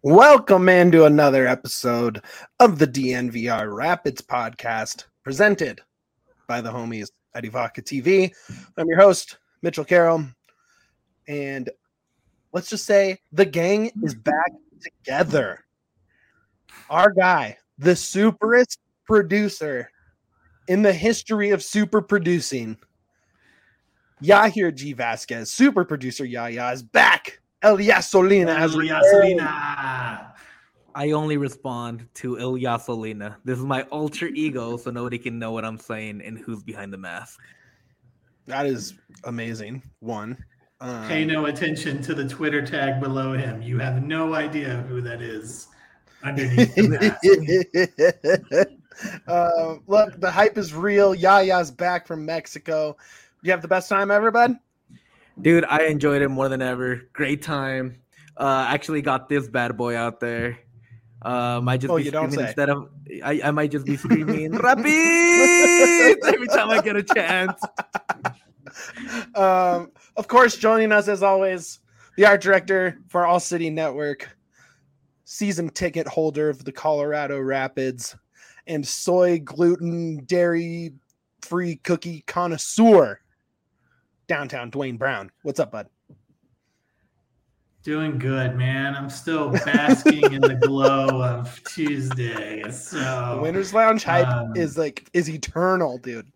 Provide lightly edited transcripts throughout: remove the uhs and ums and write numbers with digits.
Welcome into another episode of the DNVR Rapids podcast, presented by the homies at Evoca TV. I'm your host, Mitchell Carroll, and let's just say the gang is back together. Our guy, the superest producer in the history of super producing, Yahir G. Vasquez, super producer Yaya, is back. Eliasolina has returned. I only respond to Ilyasolina. This is my alter ego, so nobody can know what I'm saying and who's behind the mask. That is amazing. Pay no attention to the Twitter tag below him. You have no idea who that is underneath the mask. Look, the hype is real. Yaya's back from Mexico. You have the best time ever, bud? Dude, I enjoyed it more than ever. Great time. Actually got this bad boy out there. Might just be screaming instead of I might just be screaming Rapids every time I get a chance. Of course, joining us as always, the art director for All City Network, season ticket holder of the Colorado Rapids, and soy, gluten, dairy-free cookie connoisseur, downtown Dwayne Brown. What's up, bud? Doing good, man. I'm still basking in the glow of Tuesday. So the Winners Lounge hype is eternal, dude.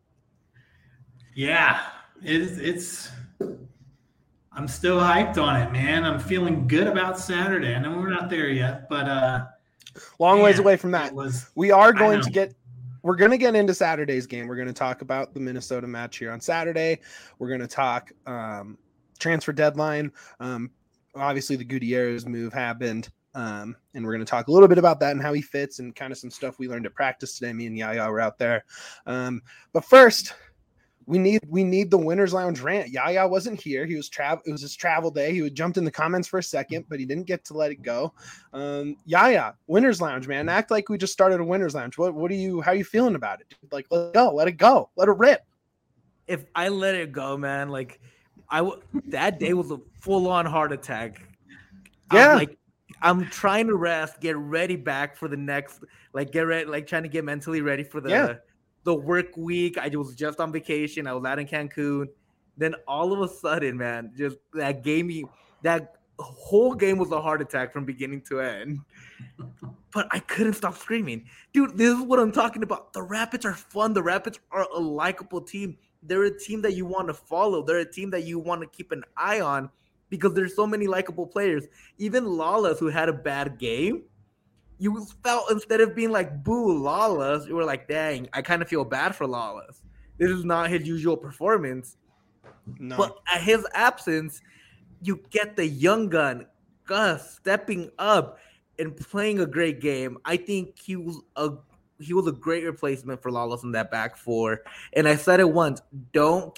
Yeah, it's. I'm still hyped on it, man. I'm feeling good about Saturday. I know we're not there yet, but long ways away from that. We're going to get into Saturday's game. We're going to talk about the Minnesota match here on Saturday. We're going to talk transfer deadline. Obviously, the Gutierrez move happened, and we're going to talk a little bit about that and how he fits and kind of some stuff we learned at practice today. Me and Yaya were out there. But first, we need the Winners Lounge rant. Yaya wasn't here. He was it was his travel day. He jumped in the comments for a second, but he didn't get to let it go. Yaya, Winners Lounge, man. Act like we just started a Winners Lounge. How are you feeling about it? Like, let it go. Let it rip. If I let it go, man, that day was a full-on heart attack. Yeah. I'm trying to rest, get ready back for the next, get ready, trying to get mentally ready for the work week. I was just on vacation. I was out in Cancun. Then all of a sudden, man, just that whole game was a heart attack from beginning to end. But I couldn't stop screaming. Dude, this is what I'm talking about. The Rapids are fun. The Rapids are a likable team. They're a team that you want to follow. They're a team that you want to keep an eye on because there's so many likable players. Even Lawless, who had a bad game, you felt instead of being like, boo, Lawless, you were like, dang, I kind of feel bad for Lawless. This is not his usual performance. No. But at his absence, you get the young gun, Gus, stepping up and playing a great game. I think he was a great replacement for Lawless in that back four. And I said it once, don't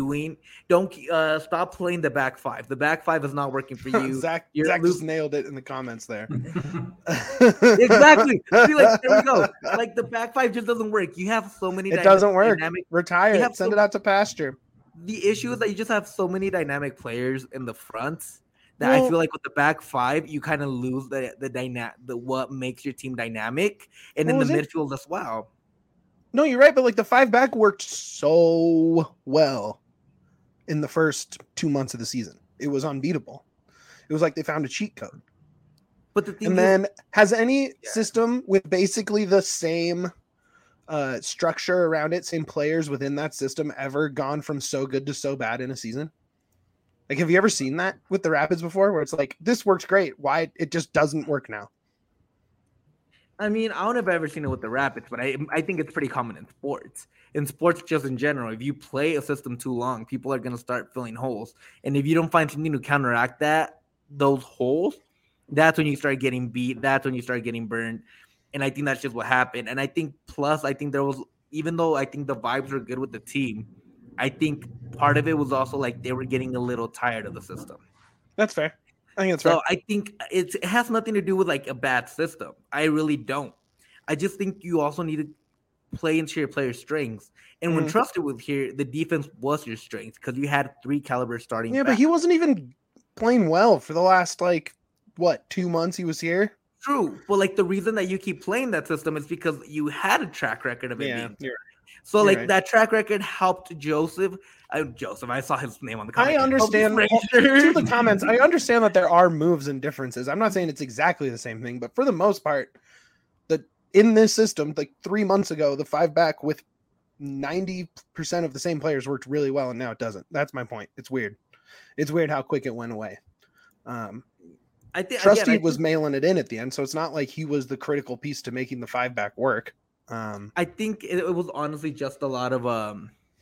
stop playing the back five. The back five is not working for you. Zach just nailed it in the comments there. Exactly. See, there we go. The back five just doesn't work. You have so many. It doesn't work. Retire it. Send it out to pasture. The issue is that you just have so many dynamic players in the fronts that I feel like with the back five, you kind of lose the what makes your team dynamic, and in the midfield as well. No, you're right, but the five back worked so well in the first 2 months of the season. It was unbeatable. It was like they found a cheat code. But the thing then has any system with basically the same structure around it, same players within that system, ever gone from so good to so bad in a season? Have you ever seen that with the Rapids before, where it's this works great, why it just doesn't work now? I mean, I don't know if I've ever seen it with the Rapids, but I think it's pretty common in sports. In sports, just in general, if you play a system too long, people are going to start filling holes. And if you don't find something to counteract those holes, that's when you start getting beat. That's when you start getting burned. And I think that's just what happened. And I think there was, even though I think the vibes were good with the team, I think part of it was also they were getting a little tired of the system. That's fair. I think that's fair. So I think it has nothing to do with a bad system. I really don't. I just think you also need to play into your players' strengths. And when Trusted was here, the defense was your strength because you had 3 caliber starting. Yeah, but he wasn't even playing well for the last what, 2 months he was here? True, but like the reason that you keep playing that system is because you had a track record of it being. So like that track record helped Joseph. I saw his name on the comment. I understand to the comments. I understand that there are moves and differences. I'm not saying it's exactly the same thing, but for the most part, in this system, like 3 months ago, the 5-back with 90% of the same players worked really well, and now it doesn't. That's my point. It's weird. It's weird how quick it went away. I think Trusty was mailing it in at the end, so it's not like he was the critical piece to making the 5-back work. I think it was honestly just a lot of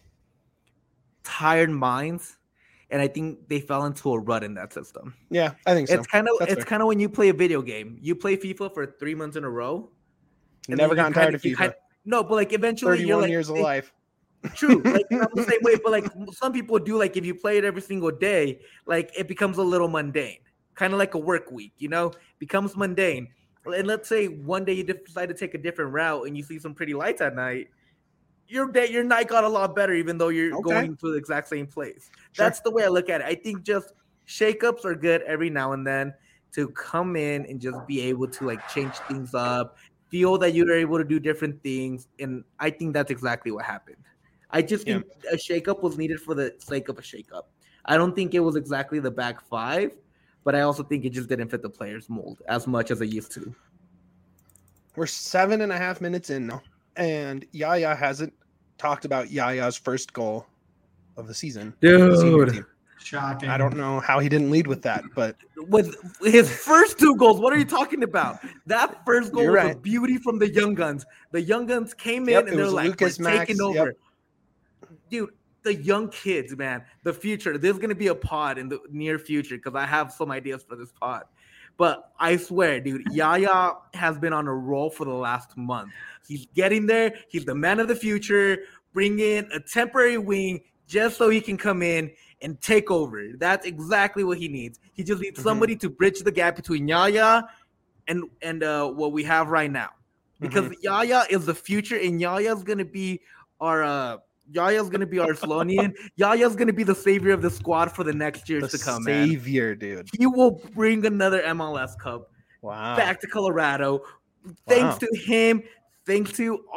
tired minds, and I think they fell into a rut in that system. Yeah, I think so. It's kind of when you play a video game. You play FIFA for 3 months in a row. Never gotten tired of FIFA. No, but like eventually 31 you're years of life. True. Like I'm the same way, but like some people do, like if you play it every single day, like it becomes a little mundane. Kind of like a work week, becomes mundane. And let's say one day you decide to take a different route and you see some pretty lights at night. Your night got a lot better, even though you're going to the exact same place. Sure. That's the way I look at it. I think just shakeups are good every now and then to come in and just be able to like change things up, feel that you're able to do different things. And I think that's exactly what happened. I just think a shakeup was needed for the sake of a shakeup. I don't think it was exactly the back five, but I also think it just didn't fit the player's mold as much as it used to. We're 7.5 minutes in now, and Yaya hasn't talked about Yaya's first goal of the season. Dude, shocking. I don't know how he didn't lead with that, but with his first 2 goals, what are you talking about? That first goal was a beauty from the Young Guns. The Young Guns came in and they're like, Lucas we're taking over. Yep. Dude, the young kids, man, the future. There's going to be a pod in the near future because I have some ideas for this pod. But I swear, dude, Yaya has been on a roll for the last month. He's getting there. He's the man of the future. Bring in a temporary wing just so he can come in and take over. That's exactly what he needs. He just needs somebody to bridge the gap between Yaya and what we have right now. Because Yaya is the future, and Yaya's going to be our Sloanian. Yaya's going to be the savior of the squad for the next years to come, man. Savior, dude. He will bring another MLS Cup back to Colorado. Thanks to him, thanks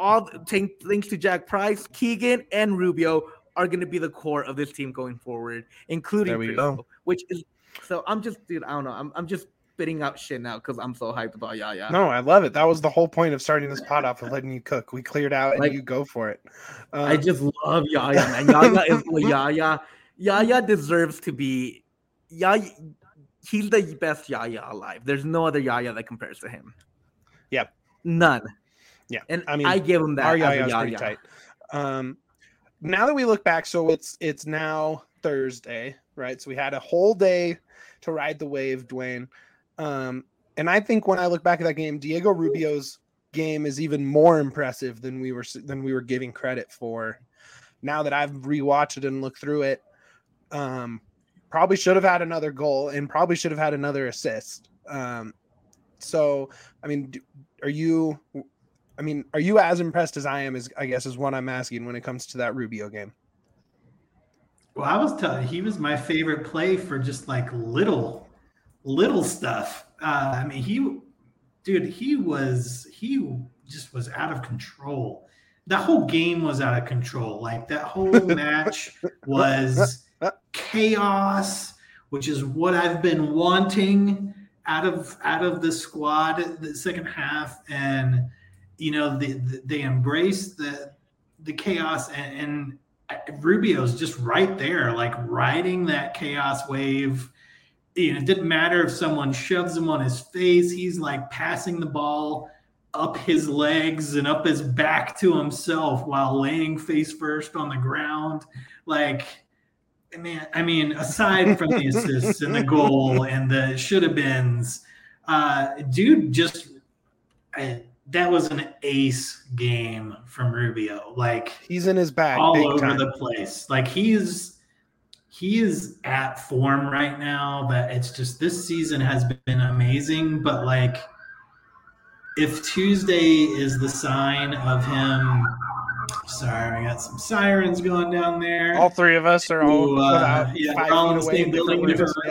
to Jack Price, Keegan, and Rubio are going to be the core of this team going forward, including Crystal, which is – so I'm just – dude, I don't know. I'm just spitting out shit now because I'm so hyped about Yaya. No, I love it. That was the whole point of starting this pod off of letting you cook. We cleared out and you go for it. I just love Yaya, man. Yaya is Yaya. Yaya deserves to be Yaya. He's the best Yaya alive. There's no other Yaya that compares to him. Yeah. None. Yeah. And I mean, I give him that. Our Yaya's pretty tight. Now that we look back, so it's now Thursday, right? So we had a whole day to ride the wave, Dwayne. And I think when I look back at that game, Diego Rubio's game is even more impressive than we were giving credit for. Now that I've rewatched it and looked through it, probably should have had another goal and probably should have had another assist. So, I mean, are you as impressed as I am, I guess is what I'm asking when it comes to that Rubio game? Well, I was telling you, he was my favorite play for just like little stuff. I mean, he just was out of control. That whole game was out of control. Like that whole match was chaos, which is what I've been wanting out of the squad the second half. And they embraced the chaos, and Rubio's just right there, like riding that chaos wave. It didn't matter if someone shoves him on his face. He's like passing the ball up his legs and up his back to himself while laying face first on the ground. Like, man, I mean, aside from the assists and the goal and the should have beens, dude, that was an ace game from Rubio. Like, he's in his bag all over the place. Like, he is at form right now. That it's just, this season has been amazing. But like, if Tuesday is the sign of him Sorry, we got some sirens going down there. All three of us are all about 5 we're all in the same building in different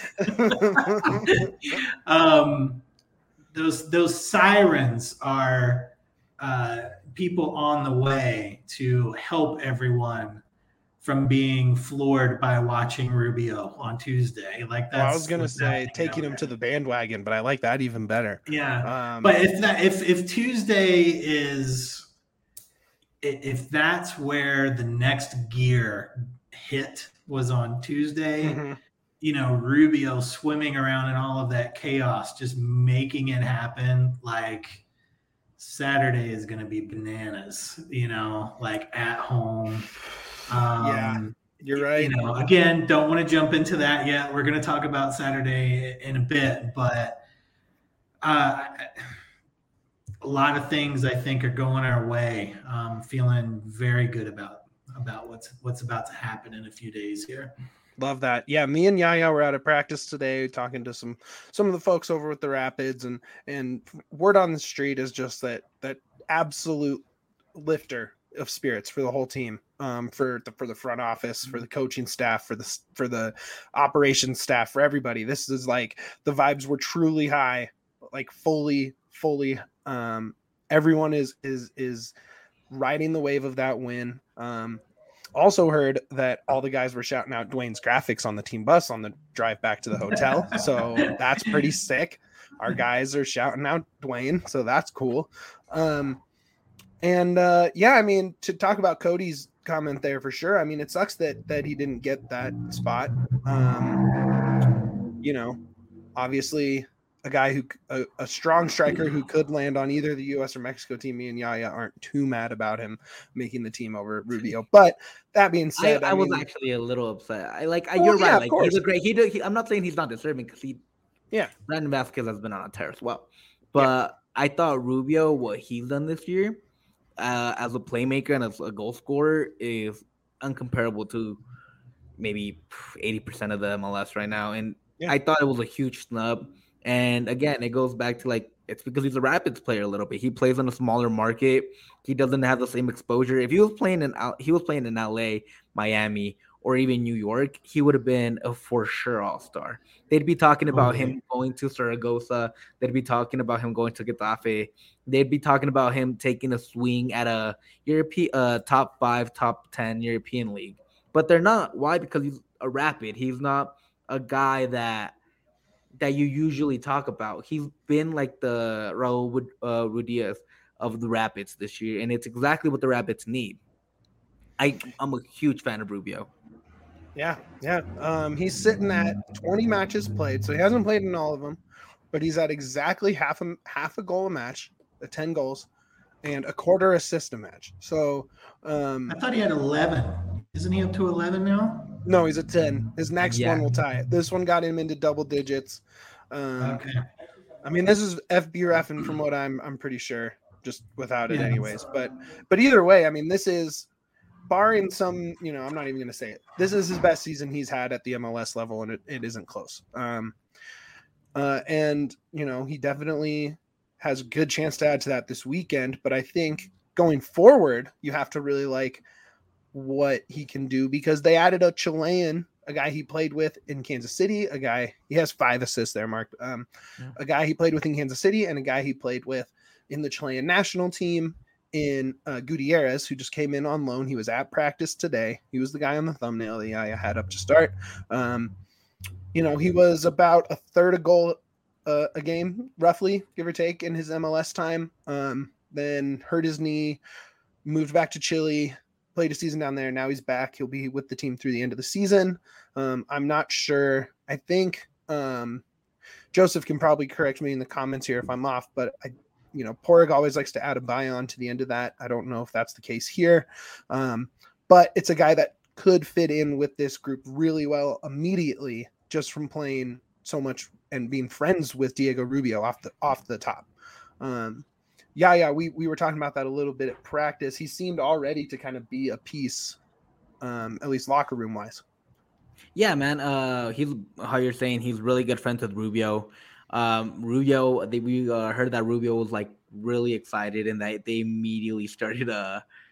rooms. Those sirens are people on the way to help everyone from being floored by watching Rubio on Tuesday. Like that's. Well, I was gonna say taking him to the bandwagon, but I like that even better. Yeah, but if Tuesday is, if that's where the next gear hit was on Tuesday, Rubio swimming around in all of that chaos, just making it happen. Like Saturday is going to be bananas, like at home. Yeah, you're right. Again, don't want to jump into that yet. We're going to talk about Saturday in a bit, but a lot of things I think are going our way. Feeling very good about what's about to happen in a few days here. Love that. Yeah, me and Yaya were out of practice today talking to some of the folks over with the Rapids, and word on the street is just that absolute lifter of spirits for the whole team, for the front office, for the coaching staff, for the operations staff, for everybody. This is like the vibes were truly high, like fully everyone is riding the wave of that win. Also heard that all the guys were shouting out Dwayne's graphics on the team bus on the drive back to the hotel. So that's pretty sick. Our guys are shouting out Dwayne. So that's cool. Yeah, I mean, to talk about Cody's comment there for sure. I mean, it sucks that he didn't get that spot. Obviously a guy who a strong striker who could land on either the US or Mexico team. Me and Yaya aren't too mad about him making the team over Rubio. But that being said, I was actually a little upset. You're right. Like he's a great. I'm not saying he's not deserving because Brandon Vasquez has been on a tear as well. But I thought Rubio, what he's done this year, as a playmaker and as a goal scorer, is uncomparable to maybe 80% of the MLS right now. And I thought it was a huge snub. And again, it goes back to it's because he's a Rapids player a little bit. He plays in a smaller market. He doesn't have the same exposure. If he was playing in LA, Miami, or even New York, he would have been a for sure all-star. They'd be talking about him going to Zaragoza. They'd be talking about him going to Getafe. They'd be talking about him taking a swing at a European top 5, top 10 European league. But they're not. Why? Because he's a Rapid. He's not a guy that you usually talk about. He's been like the Raul Rudias of the Rapids this year, and it's exactly what the Rapids need. I'm a huge fan of Rubio. Yeah. He's sitting at 20 matches played, so he hasn't played in all of them, but he's at exactly half a goal a match, 10 goals, and a quarter assist a match. So I thought he had 11. Isn't he up to 11 now? No, he's at 10. His next one will tie it. This one got him into double digits. Okay. I mean, this is FBref, from what I'm pretty sure, just without it anyways. But either way, I mean, this is barring some, I'm not even going to say it. This is his best season he's had at the MLS level, and it isn't close. And, he definitely has a good chance to add to that this weekend. But I think going forward, you have to really like what he can do, because they added a Chilean, a guy he played with in Kansas City, he has 5 assists there, Mark, a guy he played with in Kansas City, and a guy he played with in the Chilean national team in Gutierrez, who just came in on loan. He was at practice today. He was the guy on the thumbnail that I had up to start. He was about a third a goal a game, roughly, give or take, in his MLS time. Then hurt his knee, moved back to Chile, played a season down there. Now he's back. He'll be with the team through the end of the season. I'm not sure. I think Joseph can probably correct me in the comments here if I'm off, but Porig always likes to add a buy-on to the end of that. I don't know if that's the case here. But it's a guy that could fit in with this group really well immediately, just from playing so much and being friends with Diego Rubio off the top. We were talking about that a little bit at practice. He seemed already to kind of be a piece, at least locker room wise. Yeah, man. He's, how you're saying, he's really good friends with Rubio. Rubio, we heard that Rubio was like really excited, and that they immediately started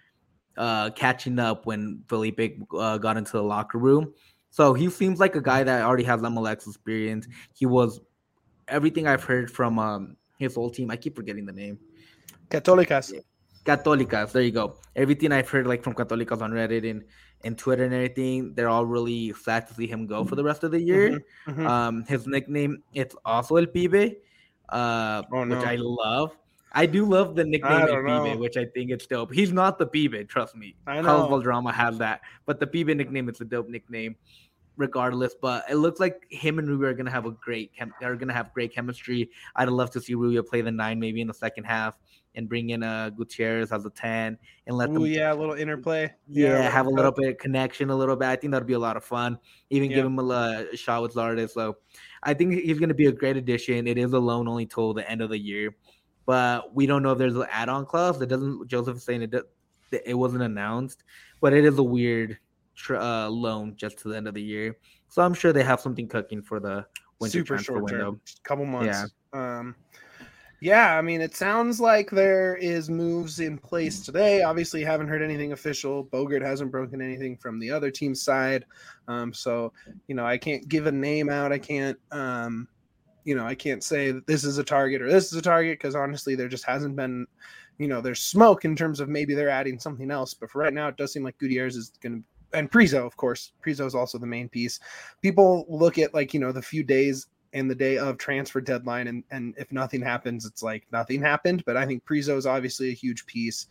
catching up when Felipe got into the locker room. So he seems like a guy that already has MLS experience. He was everything I've heard from his whole team. I keep forgetting the name. Católicas. Católicas. There you go. Everything I've heard like from Católicas on Reddit and Twitter and everything, they're all really sad to see him go for the rest of the year. His nickname, it's also El Pibe, which I love. I do love the nickname El Pibe, which I think it's dope. He's not the Pibe, trust me. I know. Carlos Valderrama has that, but the Pibe nickname is a dope nickname, regardless. But it looks like him and Rubio are gonna have great chemistry. I'd love to see Rubio play the 9 maybe in the second half and bring in Gutierrez as a 10 and let them. A little interplay. Have a little bit of connection, a little bit. I think that'd be a lot of fun. Even give him a shot with Zardes. So I think he's gonna be a great addition. It is a loan only till the end of the year. But we don't know if there's an add-on clause. Joseph is saying it wasn't announced, but it is a weird loan just to the end of the year. So I'm sure they have something cooking for the winter transfer window. Couple months. Yeah. I mean, it sounds like there is moves in place today. Obviously, haven't heard anything official. Bogert hasn't broken anything from the other team's side. So, I can't give a name out. I can't. I can't say that this is a target or this is a target because honestly, there just hasn't been, there's smoke in terms of maybe they're adding something else. But for right now, it does seem like Gutierrez is going to, and Prizo, of course. Prizo is also the main piece. People look at the few days and the day of transfer deadline, and if nothing happens, it's like nothing happened. But I think Prizo is obviously a huge piece.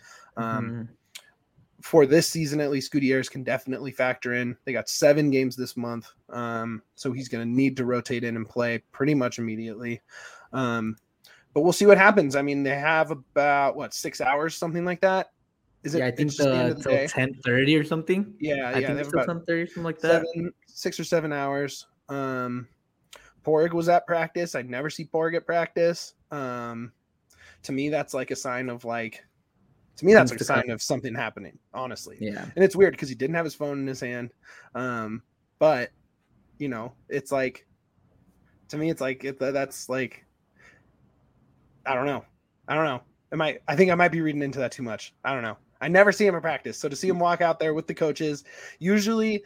For this season, at least, Gutierrez can definitely factor in. They got 7 games this month, so he's going to need to rotate in and play pretty much immediately. But we'll see what happens. I mean, they have about, 6 hours, something like that? Is it? Yeah, I think till 10:30 or something. Yeah, I think they it's have till 10:30, something like that. 6 or 7 hours. Porg was at practice. I'd never see Porg at practice. To me, that's like a sign of that's a sign of something happening, honestly. Yeah. And it's weird because he didn't have his phone in his hand. But, it's like, to me, it's like, that's like, I don't know. I think I might be reading into that too much. I don't know. I never see him in practice. So to see him walk out there with the coaches, usually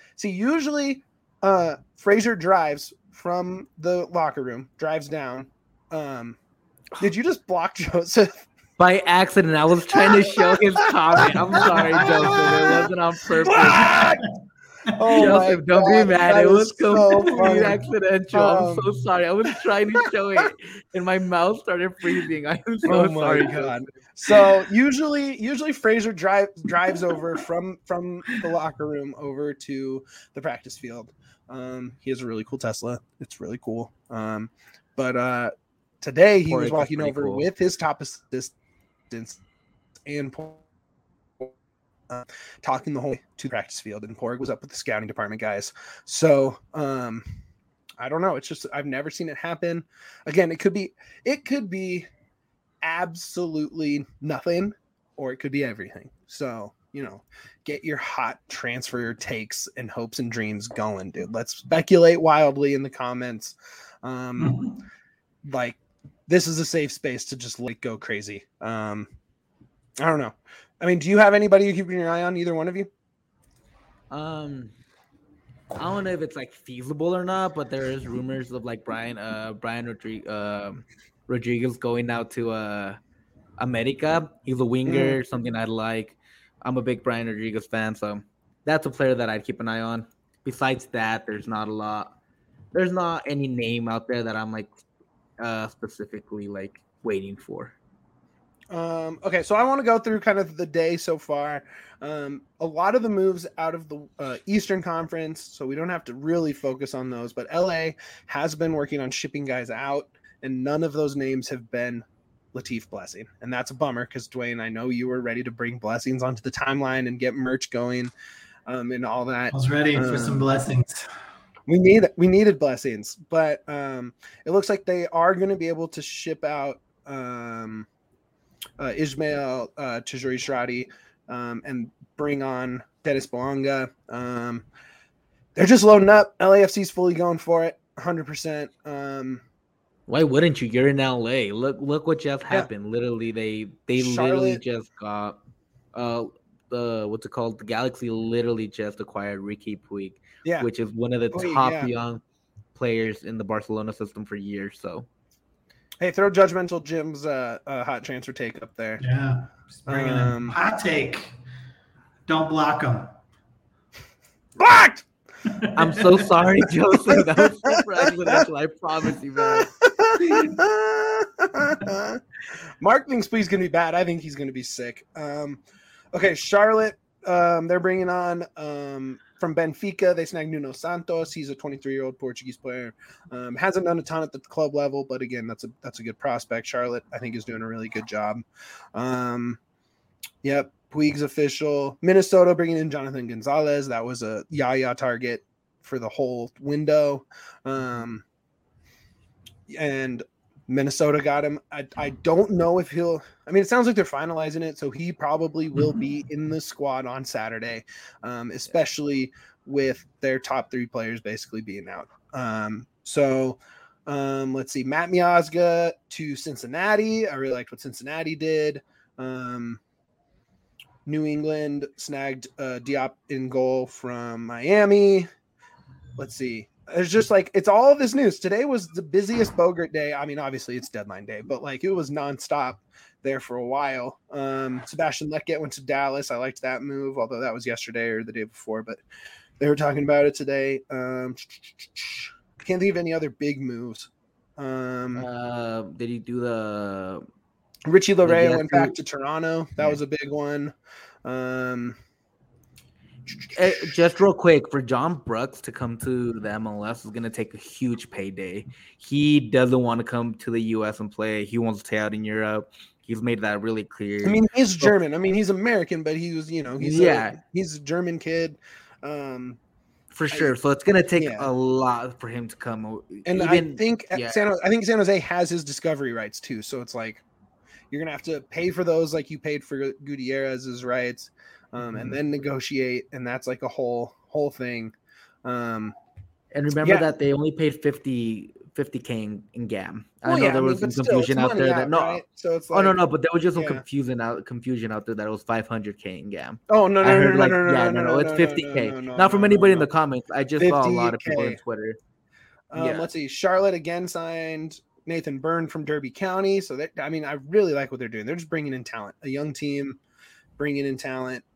Fraser drives from the locker room, drives down. Did you just block Joseph? By accident, I was trying to show his comment. I'm sorry, Joseph. It wasn't on purpose. Joseph, don't be mad. It was completely accidental. I'm so sorry. I was trying to show it, and my mouth started freezing. I'm so sorry, God. So usually Fraser drives over from the locker room over to the practice field. He has a really cool Tesla. It's really cool. But today he was walking over with his top assistant and talking the whole way to the practice field, and Porg was up with the scouting department guys. So I don't know. It's just I've never seen it happen. Again, it could be absolutely nothing, or it could be everything. So get your hot transfer takes and hopes and dreams going, dude. Let's speculate wildly in the comments. Like, this is a safe space to just go crazy. I don't know. I mean, do you have anybody you're keeping your eye on? Either one of you? I don't know if it's feasible or not, but there is rumors of Brian Rodriguez going out to America. He's a winger, something I'd like. I'm a big Brian Rodriguez fan, so that's a player that I'd keep an eye on. Besides that, there's not a lot. There's not any name out there that I'm specifically waiting for. Okay, so I want to go through kind of the day so far. A lot of the moves out of the Eastern Conference, so we don't have to really focus on those, but LA has been working on shipping guys out, and none of those names have been Latif Blessing. And that's a bummer because, Dwayne, I know you were ready to bring blessings onto the timeline and get merch going and all that. I was ready for some blessings. We needed blessings, but it looks like they are going to be able to ship out Ismail Tajuri-Shradi and bring on Dennis Boanga. They're just loading up. LAFC's fully going for it, 100%. Why wouldn't you? You're in LA. Look what just happened. Literally, they literally just got what's it called? The Galaxy literally just acquired Riqui Puig, Yeah, which is one of the top young players in the Barcelona system for years. So, hey, throw Judgmental Jim's hot transfer take up there. Yeah, just bringing in hot take. Don't block him. Blocked. I'm so sorry, Joseph. That was super accidental. I promise you, man. Mark thinks Puig's going to be bad. I think he's going to be sick. Okay, Charlotte. They're bringing on from Benfica. They snagged Nuno Santos. He's a 23-year-old Portuguese player. Hasn't done a ton at the club level, but again, that's a good prospect. Charlotte, I think, is doing a really good job. Yep. Puig's official. Minnesota bringing in Jonathan Gonzalez. That was a Yaya target for the whole window. And Minnesota got him. I don't know if he'll – I mean, it sounds like they're finalizing it, so he probably will be in the squad on Saturday, especially with their top 3 players basically being out. Let's see. Matt Miazga to Cincinnati. I really liked what Cincinnati did. New England snagged Diop in goal from Miami. Let's see. It's just like, it's all of this news. Today was the busiest Bogert day. I mean, obviously it's deadline day, but like it was nonstop there for a while. Sebastian Leckett went to Dallas. I liked that move, although that was yesterday or the day before, but they were talking about it today. Can't think of any other big moves. Did he do the Richie Laryea went back to Toronto. That was a big one. Just real quick, for John Brooks to come to the MLS is going to take a huge payday. He doesn't want to come to the U.S. and play. He wants to stay out in Europe. He's made that really clear. I mean, he's German. I mean, he's American, but he was, he's a German kid. For sure. So it's going to take a lot for him to come. And I think San Jose has his discovery rights too. So it's like, you're going to have to pay for those like you paid for Gutierrez's rights, and then negotiate. And that's like a whole thing. And remember that they only paid 50K in GAM. I know there was some confusion out there. Right? So it's like, but there was just some confusion out there that it was 500K in GAM. Oh, no, it's 50K. Not from anybody in the comments. I just saw a lot of people on Twitter. Let's see. Charlotte again signed Nathan Byrne from Derby County. So I really like what they're doing. They're just bringing in talent, a young team, bringing in talent.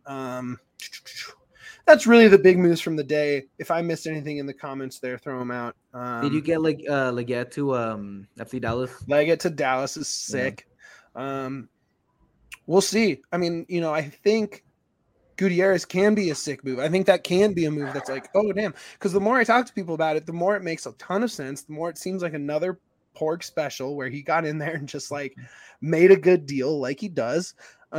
That's really the big moves from the day. If I missed anything in the comments there, throw them out. Did you get Leggett to FC Dallas? Leggett to Dallas is sick. Yeah. We'll see. I mean, I think Gutierrez can be a sick move. I think that can be a move that's like, oh, damn. Because the more I talk to people about it, the more it makes a ton of sense. The more it seems like another pork special where he got in there and just like made a good deal like he does.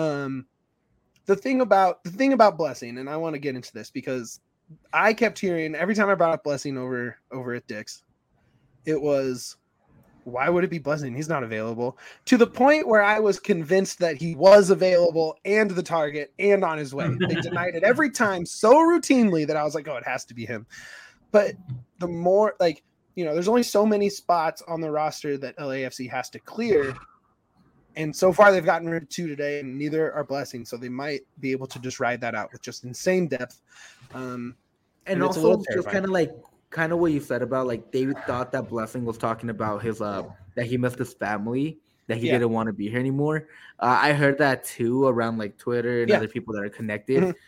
The thing about Blessing, and I want to get into this because I kept hearing every time I brought up Blessing over at Dick's, it was, why would it be Blessing? He's not available. To the point where I was convinced that he was available and the target and on his way. They denied it every time so routinely that I was like, oh, it has to be him. But the more there's only so many spots on the roster that LAFC has to clear. And so far they've gotten rid of 2 today, and neither are Blessing. So they might be able to just ride that out with just insane depth. And also just kind of what you said about like David thought that Blessing was talking about his that he missed his family, that he didn't want to be here anymore. I heard that too around like Twitter and other people that are connected. Mm-hmm.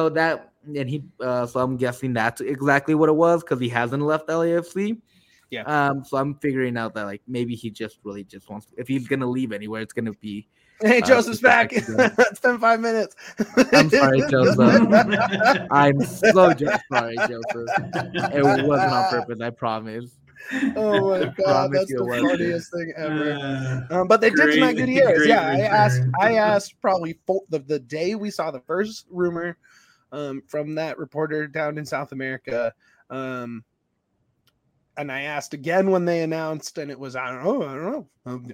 So I'm guessing that's exactly what it was because he hasn't left LAFC. Yeah. So I'm figuring out that like maybe he just really just wants to, if he's gonna leave anywhere, it's gonna be. Hey, Joseph's back. It's been 5 minutes. I'm sorry, Joseph. I'm so just sorry, Joseph. It wasn't on purpose. I promise. Oh my god, that's the funniest thing ever. But they did snag Gutierrez. Yeah, I asked probably the day we saw the first rumor from that reporter down in South America. And I asked again when they announced, and it was, I don't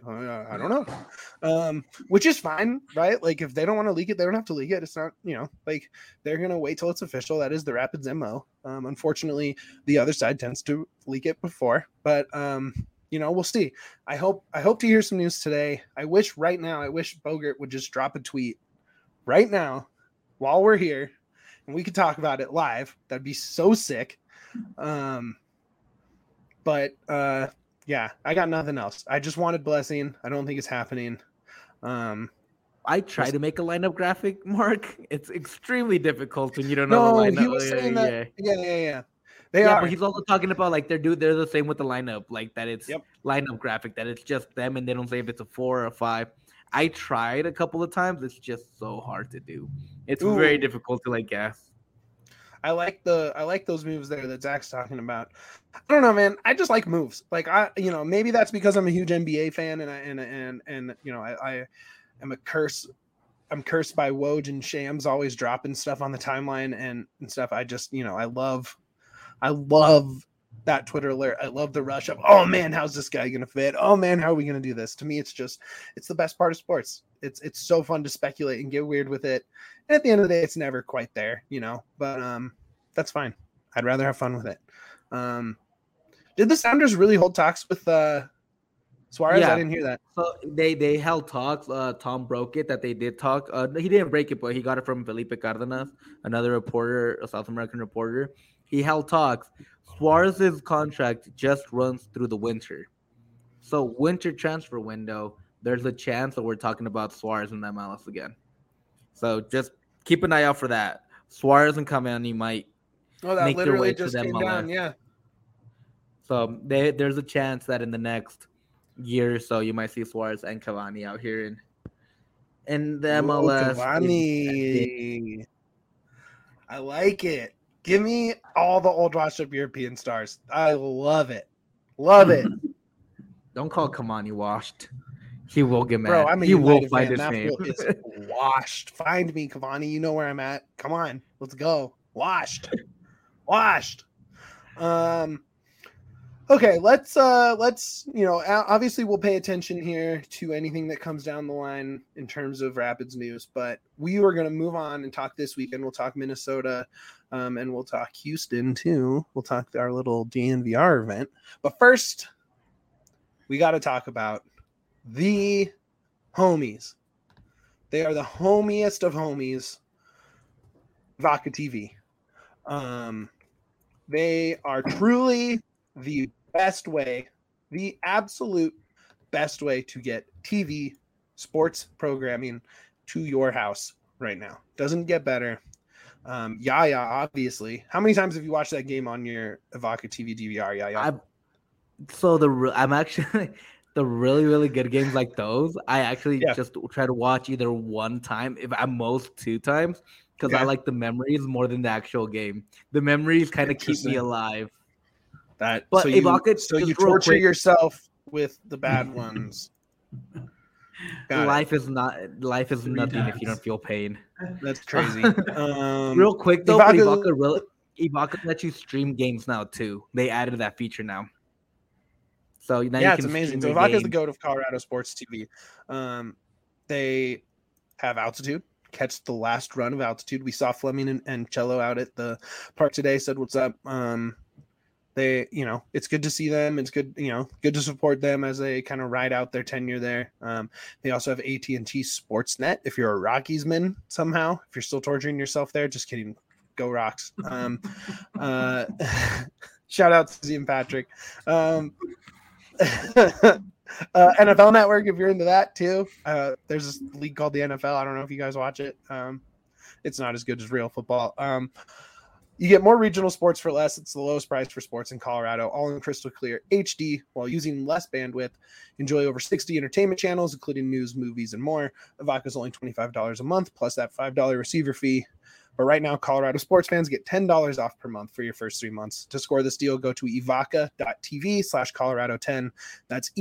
know. Which is fine, right? Like, if they don't want to leak it, they don't have to leak it. It's not, like, they're going to wait till it's official. That is the Rapids MO. Unfortunately, the other side tends to leak it before. But, we'll see. I hope to hear some news today. I wish Bogert would just drop a tweet right now while we're here, and we could talk about it live. That'd be so sick. But yeah, I got nothing else. I just wanted blessing. I don't think it's happening. I try to make a lineup graphic, Mark. It's extremely difficult when you don't know the lineup. He was saying that. Yeah. They are. But he's also talking about like they're the same with the lineup, like that it's lineup graphic, that it's just them and they don't say if it's a 4 or a 5. I tried a couple of times. It's just so hard to do. It's very difficult to like guess. I like those moves there that Zach's talking about. I don't know, man. I just like moves. Like maybe that's because I'm a huge NBA fan and I am I'm cursed by Woj and Shams always dropping stuff on the timeline and stuff. I just, I love that Twitter alert. I love the rush of, oh man, how's this guy going to fit? Oh man, how are we going to do this? To me, it's the best part of sports. It's so fun to speculate and get weird with it. And at the end of the day, it's never quite there, but that's fine. I'd rather have fun with it. Did the Sounders really hold talks with Suarez? Yeah. I didn't hear that. So they held talks. Tom broke it that they did talk. He didn't break it, but he got it from Felipe Cárdenas, another reporter, a South American reporter. He held talks. Suarez's contract just runs through the winter. So winter transfer window, there's a chance that we're talking about Suarez and MLS again. So just keep an eye out for that. Suarez and Cavani might make their way to the MLS. Down, yeah. So there's a chance that in the next year or so you might see Suarez and Cavani out here in the MLS. Cavani. I like it. Give me all the old washed up European stars. I love it. Love it. Don't call Cavani washed. He will get mad. Bro, I'm he will find his name. Is washed. Find me, Cavani. You know where I'm at. Come on. Let's go. Washed. Okay, let's obviously we'll pay attention here to anything that comes down the line in terms of Rapids news, but we are going to move on and talk this weekend. We'll talk Minnesota, and we'll talk Houston too. We'll talk our little DNVR event. But first, we got to talk about the homies. They are the homiest of homies, Vaca TV. They are truly the best way, the absolute best way to get TV sports programming to your house right now. Doesn't get better. Yaya, obviously. How many times have you watched that game on your Vaca TV DVR, Yaya? I'm actually the really, really good games like those. I actually just try to watch either one time, if at most 2 times, because I like the memories more than the actual game. The memories kind of keep me alive. But so you torture yourself with the bad ones. Life is nothing if you don't feel pain. That's crazy. Real quick though, Ivaca lets you stream games now too. They added that feature now. So now it's amazing. So Ivaca is the GOAT of Colorado sports TV. They have Altitude. Catch the last run of Altitude. We saw Fleming and Cello out at the park today. Said what's up. They, it's good to see them. It's good, good to support them as they kind of ride out their tenure there. They also have AT&T Sportsnet. If you're a Rockies-man somehow, if you're still torturing yourself there, just kidding. Go Rocks. Shout out to Z and Patrick. NFL Network, if you're into that too. There's this league called the NFL. I don't know if you guys watch it. It's not as good as real football. You get more regional sports for less. It's the lowest price for sports in Colorado, all in crystal clear HD while using less bandwidth. Enjoy over 60 entertainment channels, including news, movies, and more. Avaca is only $25 a month, plus that $5 receiver fee. But right now, Colorado sports fans get $10 off per month for your first 3 months. To score this deal, go to evaca.tv/Colorado10. That's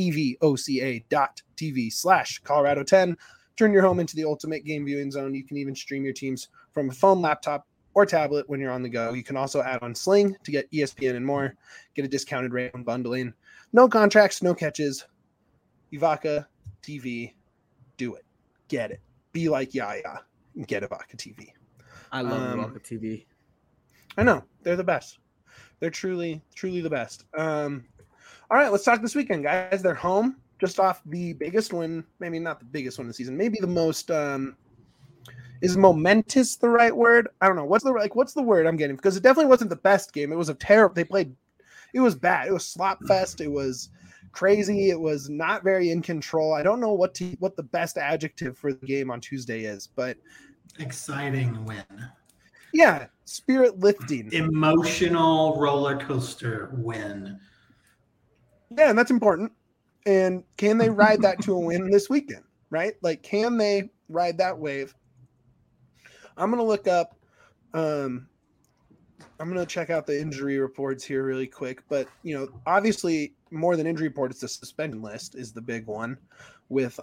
EVOCA.tv/Colorado10. Turn your home into the ultimate game viewing zone. You can even stream your teams from a phone, laptop, or tablet when you're on the go. You can also add on Sling to get ESPN and more. Get a discounted rate on bundling. No contracts, no catches. Evaca TV. Do it. Get it. Be like Yaya and get Evaca TV. I love Evaca TV. I know. They're the best. They're truly, truly the best. All right, let's talk this weekend, guys. They're home just off the biggest win. Maybe not the biggest one of the season. Maybe the most Is momentous the right word? I don't know. What's the word I'm getting? Because it definitely wasn't the best game. It was a terrible. It was bad. It was slop fest. It was crazy. It was not very in control. I don't know what the best adjective for the game on Tuesday is, but exciting win. Yeah, spirit lifting, emotional roller coaster win. Yeah, and that's important. And can they ride that to a win this weekend? Right? Like, can they ride that wave? I'm going to look up, I'm going to check out the injury reports here really quick. But, obviously more than injury report, it's the suspension list is the big one with,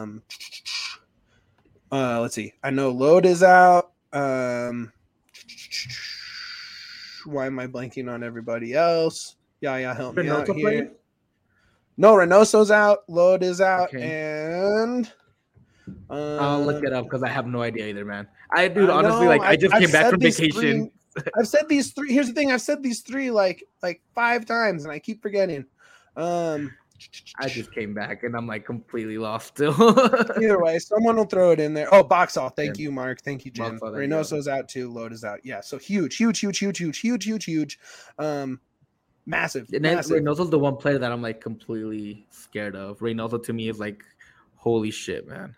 let's see. I know Load is out. Why am I blanking on everybody else? Yeah, help me out here. No, Reynoso's out. Load is out. Okay. And I'll look it up because I have no idea either, man. Honestly, I just came back from vacation. I've said these three. Here's the thing. I've said these three like 5 times, and I keep forgetting. I just came back, and I'm completely lost still. Either way, someone will throw it in there. Oh, Boxall. Thank you, Mark. Thank you, Jim. Reynoso's out too. Load is out. Yeah, so huge. Massive. And then Reynoso's the one player that I'm completely scared of. Reynoso to me is holy shit, man.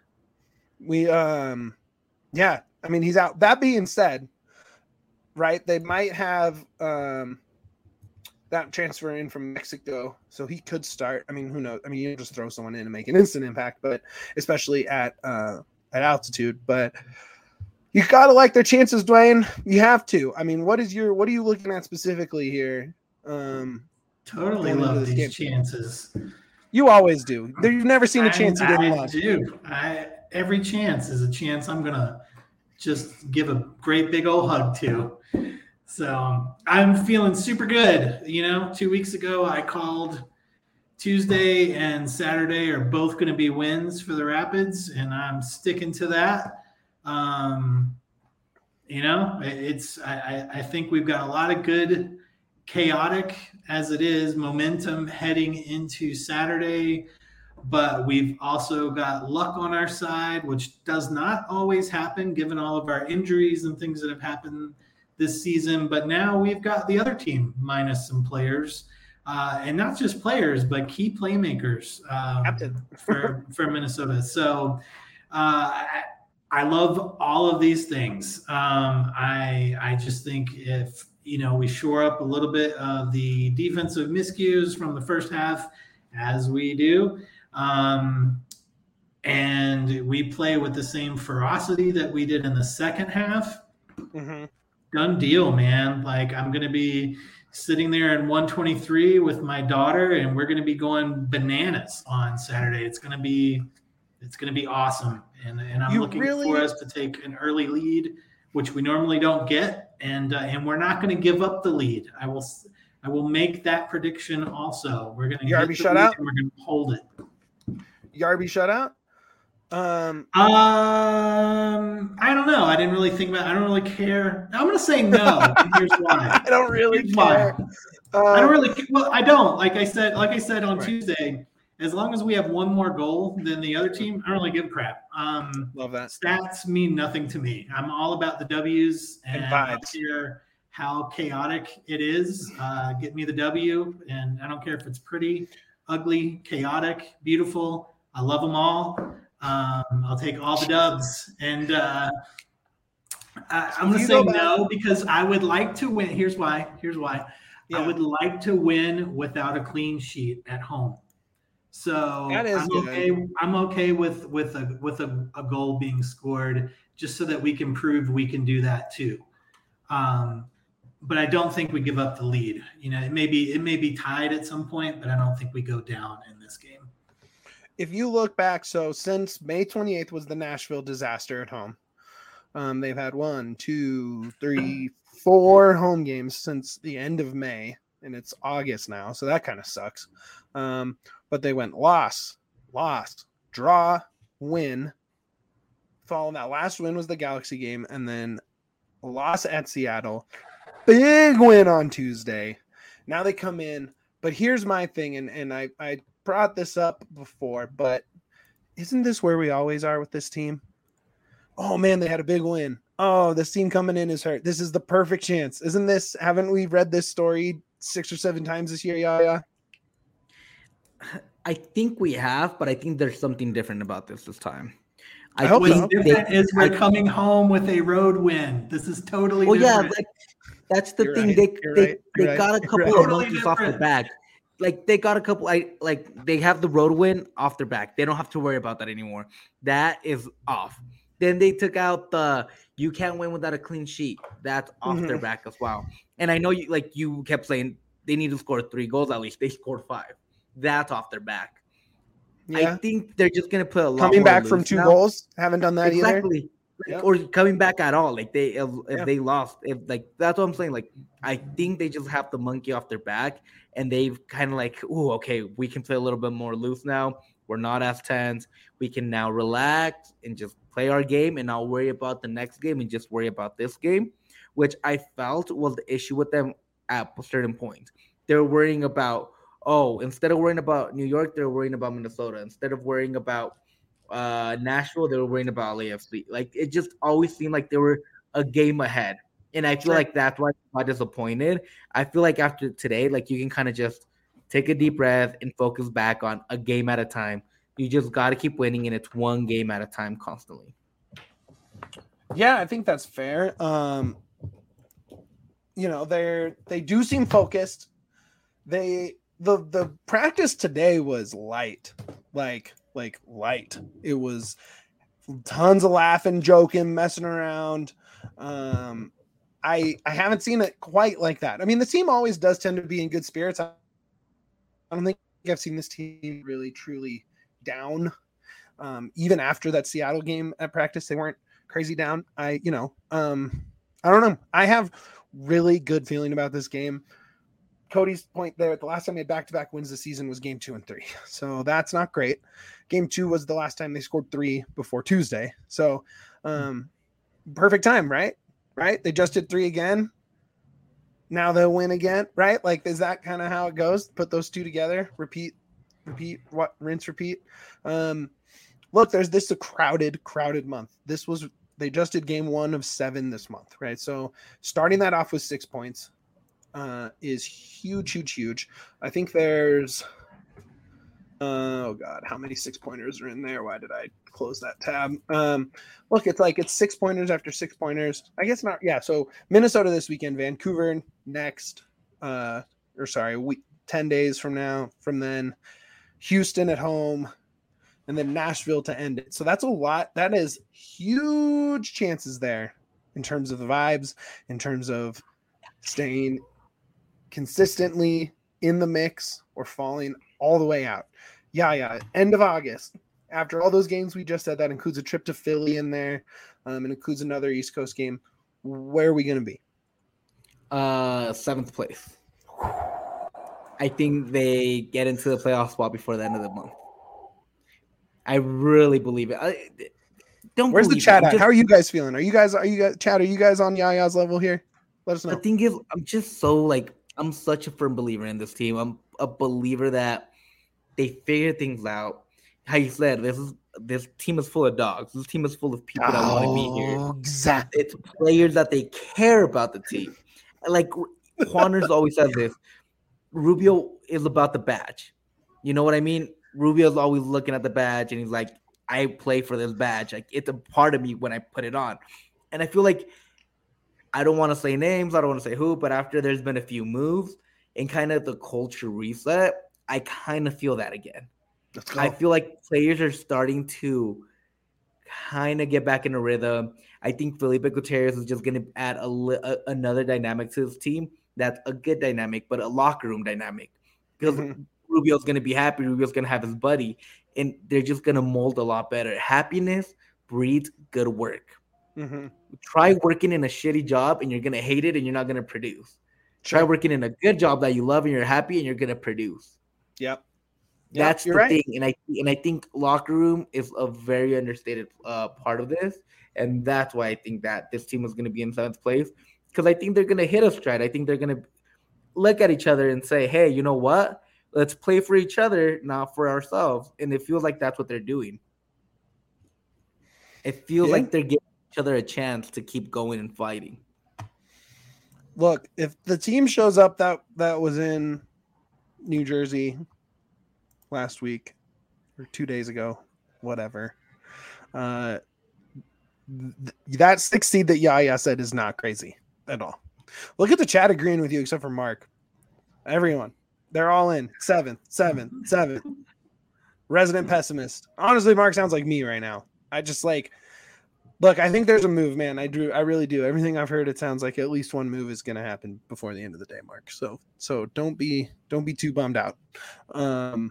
Yeah, I mean, he's out. That being said, right, they might have that transfer in from Mexico, so he could start. I mean, who knows? I mean, you just throw someone in and make an instant impact, but especially at altitude. But you gotta like their chances, Dwayne. You have to. I mean, what are you looking at specifically here? Totally love these chances. You always do. You've never seen a chance you didn't love. I do. Every chance is a chance I'm gonna just give a great big old hug to. So I'm feeling super good. 2 weeks ago I called Tuesday and Saturday are both going to be wins for the Rapids, and I'm sticking to that. I think we've got a lot of good, chaotic as it is, momentum heading into Saturday. But we've also got luck on our side, which does not always happen given all of our injuries and things that have happened this season. But now we've got the other team minus some players, and not just players, but key playmakers for Minnesota. So I love all of these things. I just think if we shore up a little bit of the defensive miscues from the first half, as we do, and we play with the same ferocity that we did in the second half, done deal, man. I'm going to be sitting there in 123 with my daughter, and we're going to be going bananas on Saturday. It's going to be awesome. And I'm looking for us to take an early lead, which we normally don't get. And we're not going to give up the lead. I will make that prediction also. We're going to get the lead and we're going to hold it. Yarby shutout? I don't know. I didn't really think about it. I don't really care. I'm going to say no. And here's why. I don't really care. I don't really. Well, I don't. Like I said on Tuesday, as long as we have one more goal than the other team, I don't really give a crap. Love that. Stats mean nothing to me. I'm all about the W's and vibes. I hear how chaotic it is. Get me the W, and I don't care if it's pretty, ugly, chaotic, beautiful. I love them all. I'll take all the dubs, and I'm going to say no because I would like to win. Here's why. Yeah. I would like to win without a clean sheet at home. So I'm okay with a goal being scored just so that we can prove we can do that too. But I don't think we give up the lead. It may be tied at some point, but I don't think we go down in this game. If you look back, so since May 28th was the Nashville disaster at home, they've had 1, 2, 3, 4 home games since the end of May, and it's August now, so that kind of sucks. But they went loss, draw, win. Following that last win was the Galaxy game, and then a loss at Seattle. Big win on Tuesday. Now they come in, but here's my thing, and I brought this up before, but isn't this where we always are with this team? oh man, they had a big win. Oh, this team coming in is hurt. This is the perfect chance. Haven't we read this story 6 or 7 times this year? Yeah. I think we have, but I think there's something different about this time. I hope so. We're coming home with a road win. This is totally different. Yeah, that's the thing. Right. They got a couple of monkeys off the back. Like they got a couple. They have the road win off their back. They don't have to worry about that anymore. That is off. Then they took out the you can't win without a clean sheet. That's off their back as well. And I know you kept saying they need to score 3 goals at least. They scored 5. That's off their back. Yeah. I think they're just gonna put a lot coming back from 2 goals. Haven't done that either. Yep. Or coming back at all. Like if they lost, that's what I'm saying. Like I think they just have the monkey off their back, and they've kind of okay, we can play a little bit more loose now. We're not as tense. We can now relax and just play our game and not worry about the next game and just worry about this game, which I felt was the issue with them at a certain point. They were worrying about, instead of worrying about New York, they were worrying about Minnesota. Instead of worrying about Nashville, they were worrying about LAFC. Like it just always seemed like they were a game ahead. And I feel like that's why I'm disappointed. I feel like after today, you can kind of just take a deep breath and focus back on a game at a time. You just got to keep winning, and it's one game at a time constantly. Yeah, I think that's fair. They do seem focused. The practice today was light, like light. It was tons of laughing, joking, messing around. I haven't seen it quite like that. I mean, the team always does tend to be in good spirits. I don't think I've seen this team really truly down. Even after that Seattle game at practice, they weren't crazy down. I don't know. I have really good feeling about this game. Cody's point there, the last time they had back-to-back wins this season was game 2 and 3. So that's not great. Game 2 was the last time they scored 3 before Tuesday. So perfect time, right? They just did 3 again. Now they'll win again, right? Is that kind of how it goes? Put those 2 together, repeat, rinse, repeat. Look, this is a crowded month. They just did game 1 of 7 this month, right? So starting that off with 6 points is huge. I think there's, oh God, how many 6-pointers are in there? Why did I close that tab? Look, it's 6-pointers after 6-pointers. I guess not. Yeah. So Minnesota this weekend, Vancouver next, 10 days from now, from then Houston at home, and then Nashville to end it. So that's a lot. That is huge chances there in terms of the vibes, in terms of staying consistently in the mix or falling all the way out. Yeah. End of August. After all those games we just said, that includes a trip to Philly in there, and includes another East Coast game. Where are we going to be? 7th place. I think they get into the playoff spot before the end of the month. I really believe it. Where's the chat at? How are you guys feeling? Are you guys chat? Are you guys on Yaya's level here? Let us know. The thing is, I'm just so I'm such a firm believer in this team. I'm a believer that they figure things out. How you said, this team is full of dogs. This team is full of people that want to be here. Exactly. It's players that they care about the team. Juaners always says this. Rubio is about the badge. You know what I mean? Rubio's always looking at the badge, and he's like, I play for this badge. It's a part of me when I put it on. And I feel like, I don't want to say names, I don't want to say who, but after there's been a few moves and kind of the culture reset, I kind of feel that again. I feel like players are starting to kind of get back in a rhythm. I think Felipe Gutierrez is just going to add another dynamic to his team. That's a good dynamic, but a locker room dynamic. Because Rubio's going to be happy. Rubio's going to have his buddy, and they're just going to mold a lot better. Happiness breeds good work. Try working in a shitty job, and you're going to hate it, and you're not going to produce. Try working in a good job that you love, and you're happy, and you're going to produce. Yep. That's the thing, and I think locker room is a very understated part of this, and that's why I think that this team is going to be in 7th place, because I think they're going to hit a stride. I think they're going to look at each other and say, hey, you know what? Let's play for each other, not for ourselves. And it feels like that's what they're doing. It feels like they're getting each other a chance to keep going and fighting. Look, if the team shows up that was in New Jersey last week or 2 days ago, whatever, that 6th seed that Yaya said is not crazy at all. Look at the chat agreeing with you, except for Mark. Everyone, they're all in 7. Resident pessimist. Honestly, Mark sounds like me right now. I just look, I think there's a move, man. I really do. Everything I've heard, it sounds like at least one move is going to happen before the end of the day, Mark. So don't be too bummed out. Also,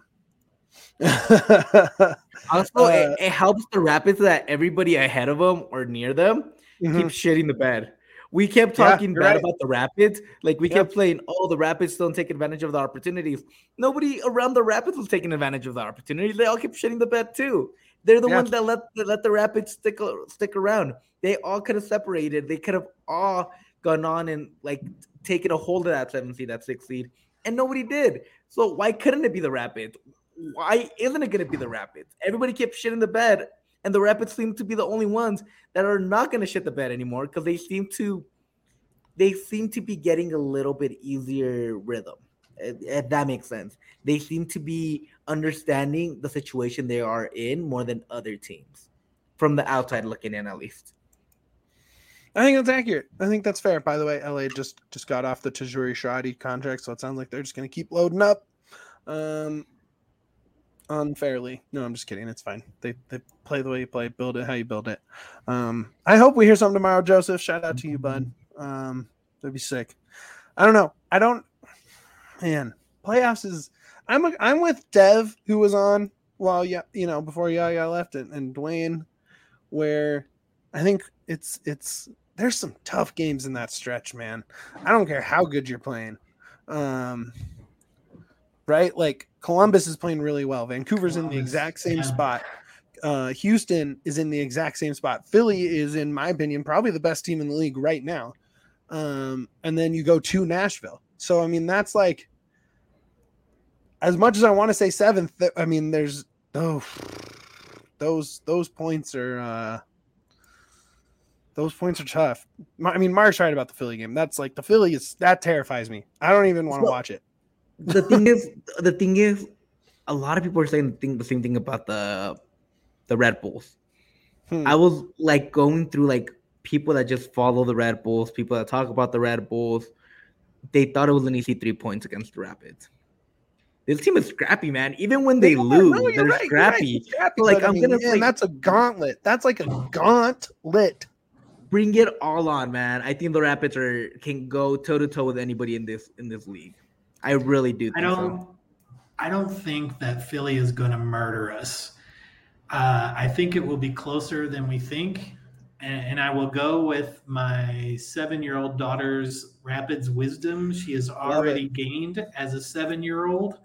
it helps the Rapids that everybody ahead of them or near them keeps shitting the bed. We kept talking bad about the Rapids. Like, we kept saying, oh, the Rapids don't take advantage of the opportunities. Nobody around the Rapids was taking advantage of the opportunities. They all kept shitting the bed too. They're the ones that let the Rapids stick around. They all could have separated. They could have all gone on and taken a hold of that 7 seed, that 6 seed, and nobody did. So why couldn't it be the Rapids? Why isn't it going to be the Rapids? Everybody kept shitting the bed, and the Rapids seem to be the only ones that are not going to shit the bed anymore because they seem to be getting a little bit easier rhythm. If that makes sense. They seem to be understanding the situation they are in more than other teams from the outside looking in, at least. I think that's accurate. I think that's fair. By the way, LA just got off the Tajuri Shradi contract, so it sounds like they're just going to keep loading up unfairly. No, I'm just kidding. It's fine. They play the way you play, build it how you build it. I hope we hear something tomorrow, Joseph. Shout out to you, bud. That'd be sick. I don't know. Man, playoffs is. I'm with Dev, who was on before Yaya left, and Dwayne, where I think it's there's some tough games in that stretch, man. I don't care how good you're playing, right? Like Columbus is playing really well. Vancouver's in the exact same spot. Houston is in the exact same spot. Philly is, in my opinion, probably the best team in the league right now. And then you go to Nashville. So, I mean, that's like, as much as I want to say 7th, I mean, there's those points are tough. I mean, Mark's right about the Philly game. That's like, the Philly that terrifies me. I don't even want to watch it. The thing is, a lot of people are saying the same thing about the Red Bulls. I was going through people that just follow the Red Bulls, people that talk about the Red Bulls. They thought it was an easy 3 points against the Rapids. This team is scrappy, man. Even when they lose, they're scrappy. And that's a gauntlet. That's like a gauntlet. Bring it all on, man. I think the Rapids can go toe to toe with anybody in this league. I really do. I don't think that Philly is going to murder us. I think it will be closer than we think. And I will go with my 7-year-old daughter's Rapids wisdom she has already gained as a 7-year-old.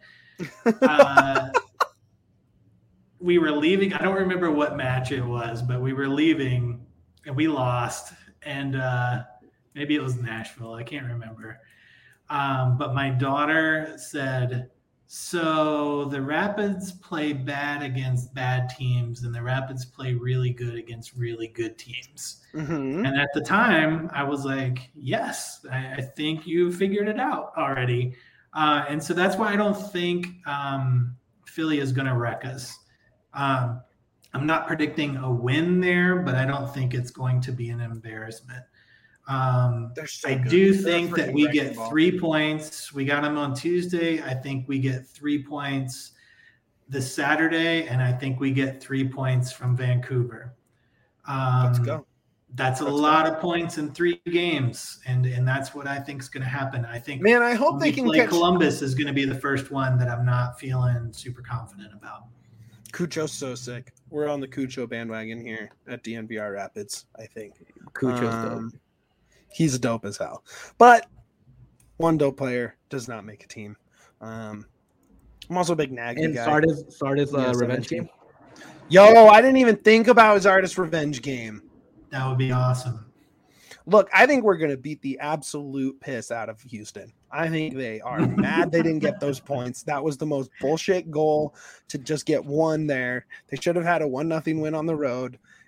We were leaving. I don't remember what match it was, but we were leaving and we lost. And maybe it was Nashville. I can't remember. But my daughter said, so the Rapids play bad against bad teams and the Rapids play really good against really good teams. Mm-hmm. And at the time I was like, yes, I think you figured it out already. And so that's why I don't think Philly is going to wreck us. I'm not predicting a win there, but I don't think it's going to be an embarrassment. I do think that we get 3 points. We got them on Tuesday. I think we get 3 points this Saturday, and I think we get 3 points from Vancouver. Let's go. That's a lot of points in 3 games, and that's what I think is going to happen. I think. Man, I hope they can play Columbus is going to be the first one that I'm not feeling super confident about. Cucho's so sick. We're on the Cucho bandwagon here at DNVR Rapids. I think Cucho's dope. He's dope as hell. But one dope player does not make a team. I'm also a big Nagy guy. Sardis revenge game. Yo, I didn't even think about Zardes revenge game. That would be awesome. Look, I think we're going to beat the absolute piss out of Houston. I think they are mad they didn't get those points. That was the most bullshit goal to just get one there. They should have had a 1-0 win on the road.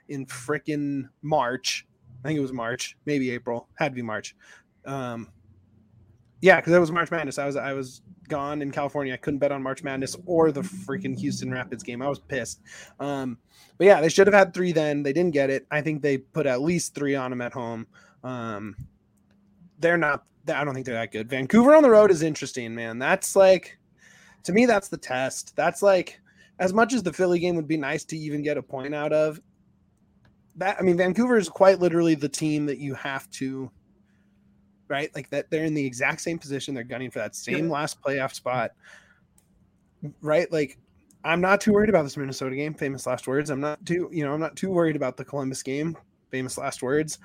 in frickin' March. I think it was March, maybe April. Had to be March. Yeah, because it was March Madness. I was gone in California. I couldn't bet on March Madness or the freaking Houston Rapids game. I was pissed. But yeah, they should have had 3 then. They didn't get it. I think they put at least 3 on them at home. They're not. I don't think they're that good. Vancouver on the road is interesting, man. That's like, to me, that's the test. That's like, as much as the Philly game would be nice to even get a point out of, that, I mean, Vancouver is quite literally the team that you have to, right? Like that, they're in the exact same position. They're gunning for that same last playoff spot, right? Like, I'm not too worried about this Minnesota game. Famous last words. I'm not too worried about the Columbus game. Famous last words.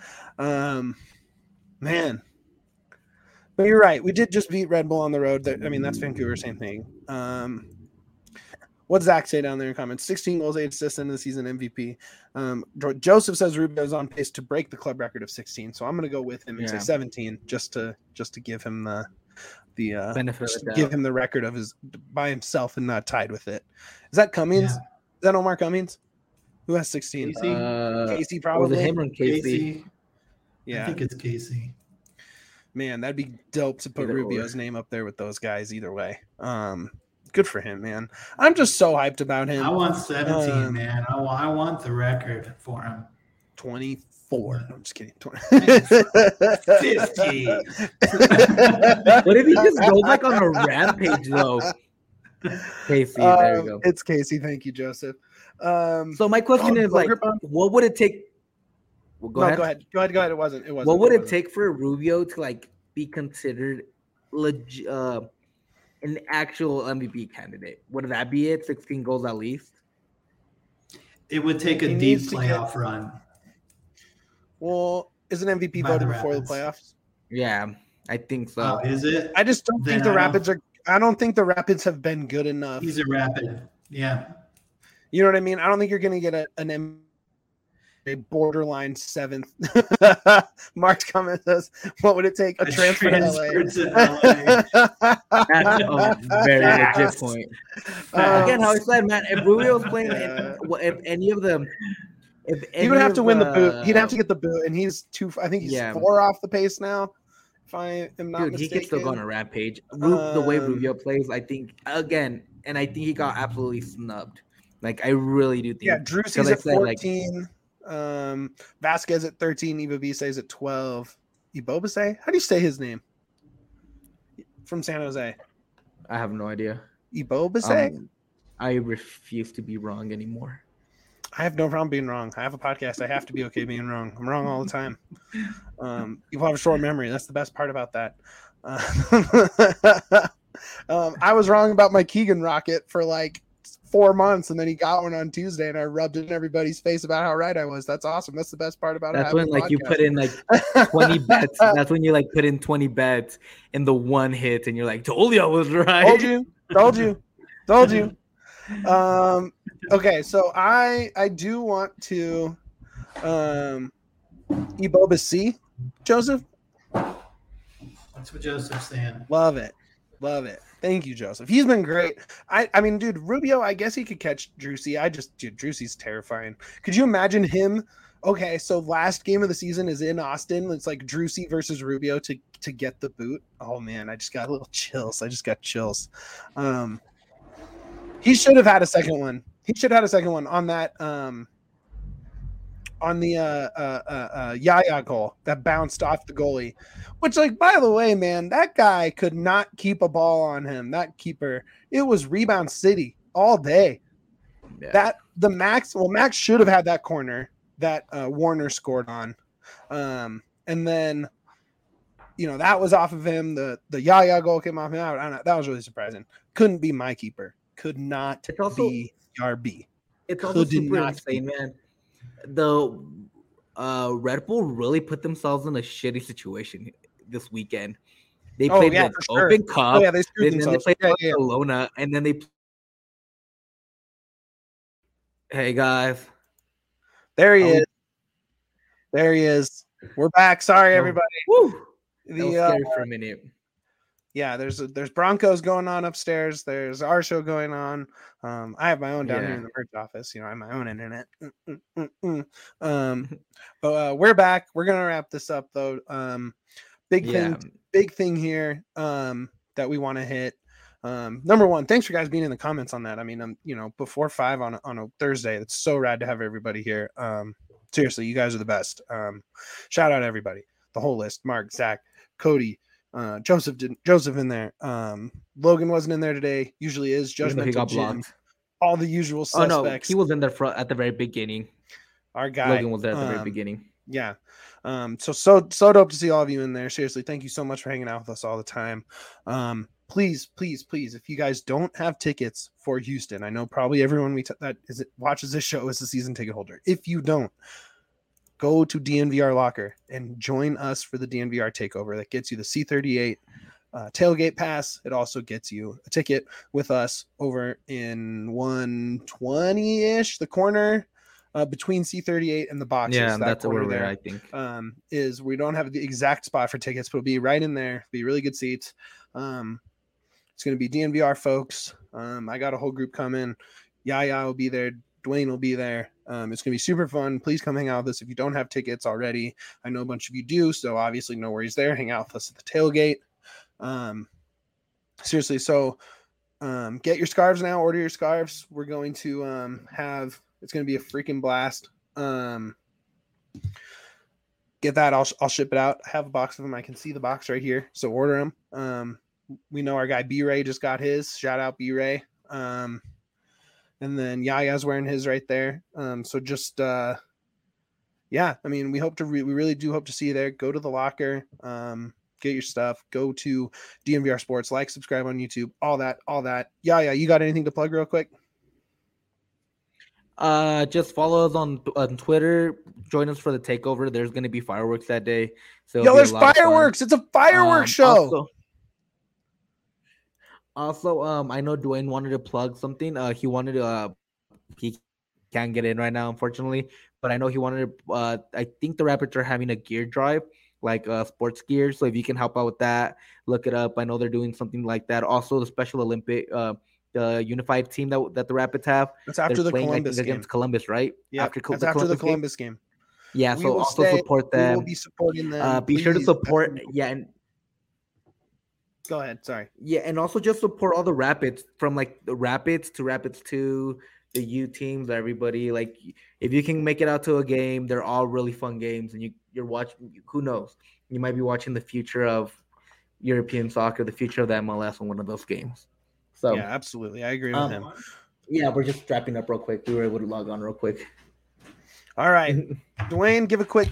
Man. But you're right. We did just beat Red Bull on the road. I mean, that's Vancouver, same thing. What's Zach say down there in comments? 16 goals, 8 assists in the season, MVP. Joseph says Rubio's on pace to break the club record of 16. So I'm going to go with him and say 17, just to give him the benefit, give him the record of his by himself and not tied with it. Is that Cummings? Yeah. Is that Omar Cummings? Who has 16? Casey probably. Was it him or Casey? Yeah, I think it's Casey. Man, that'd be dope to put Rubio's name up there with those guys either way. Good for him, man. I'm just so hyped about him. I want 17, man. I want the record for him. 24. I'm just kidding. 50. What if he just goes like on a rampage though? Casey, there you go. It's Casey. Thank you, Joseph. So my question is like, what would it take? Well, go ahead. Go ahead. It wasn't. What would it take for Rubio to like be considered an actual MVP candidate? Would that be it? 16 goals at least? It would take a deep playoff run. Well, is an MVP voted before the playoffs? Yeah, I think so. Is it? I just don't think the Rapids are. I don't think the Rapids have been good enough. He's a Rapid. Yeah. You know what I mean? I don't think you're going to get an a borderline 7th. Mark's comment says, what would it take? A transfer to LA. That's a very legit point. Again, how he said, man, if Rubio's playing, if any of them, he would have to win the boot. He'd have to get the boot, and he's 4 off the pace now. If I am not mistaken. He can still go on a rampage. The way Rubio plays, I think, again, and I think he got absolutely snubbed. Like, I really do think. Yeah, Drew's at 14. Vasquez at 13. Ibobise at 12. Ibobise? How do you say his name? From San Jose. I have no idea. Ibobise? I refuse to be wrong anymore. I have no problem being wrong. I have a podcast. I have to be okay being wrong. I'm wrong all the time. People have a short memory. That's the best part about that. I was wrong about my Keegan rocket for like 4 months, and then he got one on Tuesday, and I rubbed it in everybody's face about how right I was. That's awesome. That's the best part about it. That's when like you put in like 20 bets. That's when you like put in 20 bets and the one hit, and you're like, told you I was right. Told you. Okay, so I do want to Ibobise, Joseph. That's what Joseph's saying. Love it. Thank you, Joseph. He's been great. I mean, dude, Rubio, I guess he could catch Drusy. Drusy's terrifying. Could you imagine him? Okay, so last game of the season is in Austin. It's like Drusy versus Rubio to get the boot. Oh man, I just got a little chills. He should have had a second one. On that on the Yaya goal that bounced off the goalie, which, like, by the way, man, that guy could not keep a ball on him. That keeper, it was rebound city all day. Yeah. Max should have had that corner that Warner scored on, and then that was off of him. The Yaya goal came off him. I don't know, that was really surprising. Couldn't be my keeper. Could not be RB. It's also super insane, man. The Red Bull really put themselves in a shitty situation this weekend. They played the Open Cup. They played Barcelona, and then they. Hey guys, there he is. We're back. Sorry, everybody. Woo. That was scary for a minute. yeah, there's Broncos going on upstairs. There's our show going on. I have my own down here in the merch office. You know, I have my own internet. But we're back. We're gonna wrap this up though. Big thing here that we want to hit. Number one, thanks for guys being in the comments on that. I mean, you know, before 5 on a Thursday. It's so rad to have everybody here. Seriously, you guys are the best. Shout out everybody, the whole list: Mark, Zach, Cody, Joseph in there. Logan wasn't in there today. Usually is Judgmental Jim. All the usual suspects. Oh no, he was in there at the very beginning. Our guy Logan was there at the very beginning. Yeah. So dope to see all of you in there. Seriously, thank you so much for hanging out with us all the time. Please, if you guys don't have tickets for Houston, I know probably everyone watches this show is a season ticket holder. If you don't, go to DNVR Locker and join us for the DNVR takeover. That gets you the C38 tailgate pass. It also gets you a ticket with us over in 120-ish, the corner between C38 and the boxes. Yeah, that's where we're there, I think. Is we don't have the exact spot for tickets, but it'll be right in there. It'll be really good seats. It's going to be DNVR folks. I got a whole group coming. Yaya will be there. Dwayne will be there. It's going to be super fun. Please come hang out with us if you don't have tickets already. I know a bunch of you do, so obviously no worries there. Hang out with us at the tailgate. Seriously, so get your scarves now. Order your scarves. We're going to it's going to be a freaking blast. Get that. I'll ship it out. I have a box of them. I can see the box right here, so order them. We know our guy B-Ray just got his. Shout out B-Ray. And then Yaya's wearing his right there. So just yeah, I mean, we really do hope to see you there. Go to the locker, get your stuff, go to DNVR Sports, like, subscribe on YouTube, all that. Yaya, you got anything to plug real quick? Just follow us on Twitter. Join us for the takeover. There's going to be fireworks that day. So there's fireworks. It's a fireworks show. Also, I know Dwayne wanted to plug something. He wanted to. He can't get in right now, unfortunately. But I know he wanted to. I think the Rapids are having a gear drive, like sports gear. So if you can help out with that, look it up. I know they're doing something like that. Also, the Special Olympic. The unified team that the Rapids have. That's after the Columbus game. Against Columbus, right? Yeah, after the Columbus game. Yeah, so also support them. We will be supporting them. Be sure to support. Yeah, and go ahead. Sorry. Yeah, and also just support all the Rapids, from like the Rapids to Rapids 2, the U teams, everybody. Like, if you can make it out to a game, they're all really fun games, and you're watching. Who knows? You might be watching the future of European soccer, the future of the MLS on one of those games. So yeah, absolutely. I agree with him. Yeah, we're just wrapping up real quick. We were able to log on real quick. All right. Dwayne, give a quick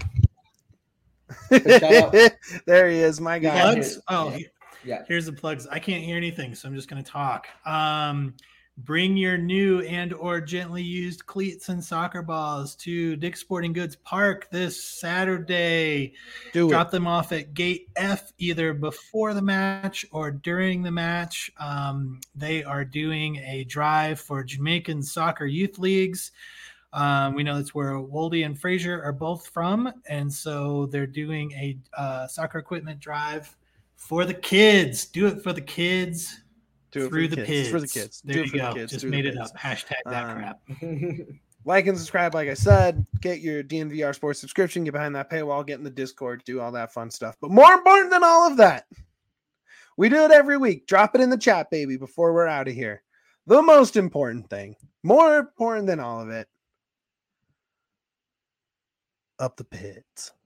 there he is, my guy. Plugs? Oh, yeah. Here's the plugs. I can't hear anything, so I'm just going to talk. Bring your new and or gently used cleats and soccer balls to Dick's Sporting Goods Park this Saturday. Drop them off at Gate F either before the match or during the match. They are doing a drive for Jamaican soccer youth leagues. We know that's where Wolde and Fraser are both from, and so they're doing a soccer equipment drive for the kids. Do it for the kids. Through the kids. For the kids. There you go. Just made it up. Hashtag that crap. Like and subscribe, like I said. Get your DNVR Sports subscription. Get behind that paywall. Get in the Discord. Do all that fun stuff. But more important than all of that, we do it every week. Drop it in the chat, baby, before we're out of here. The most important thing, more important than all of it, up the pits.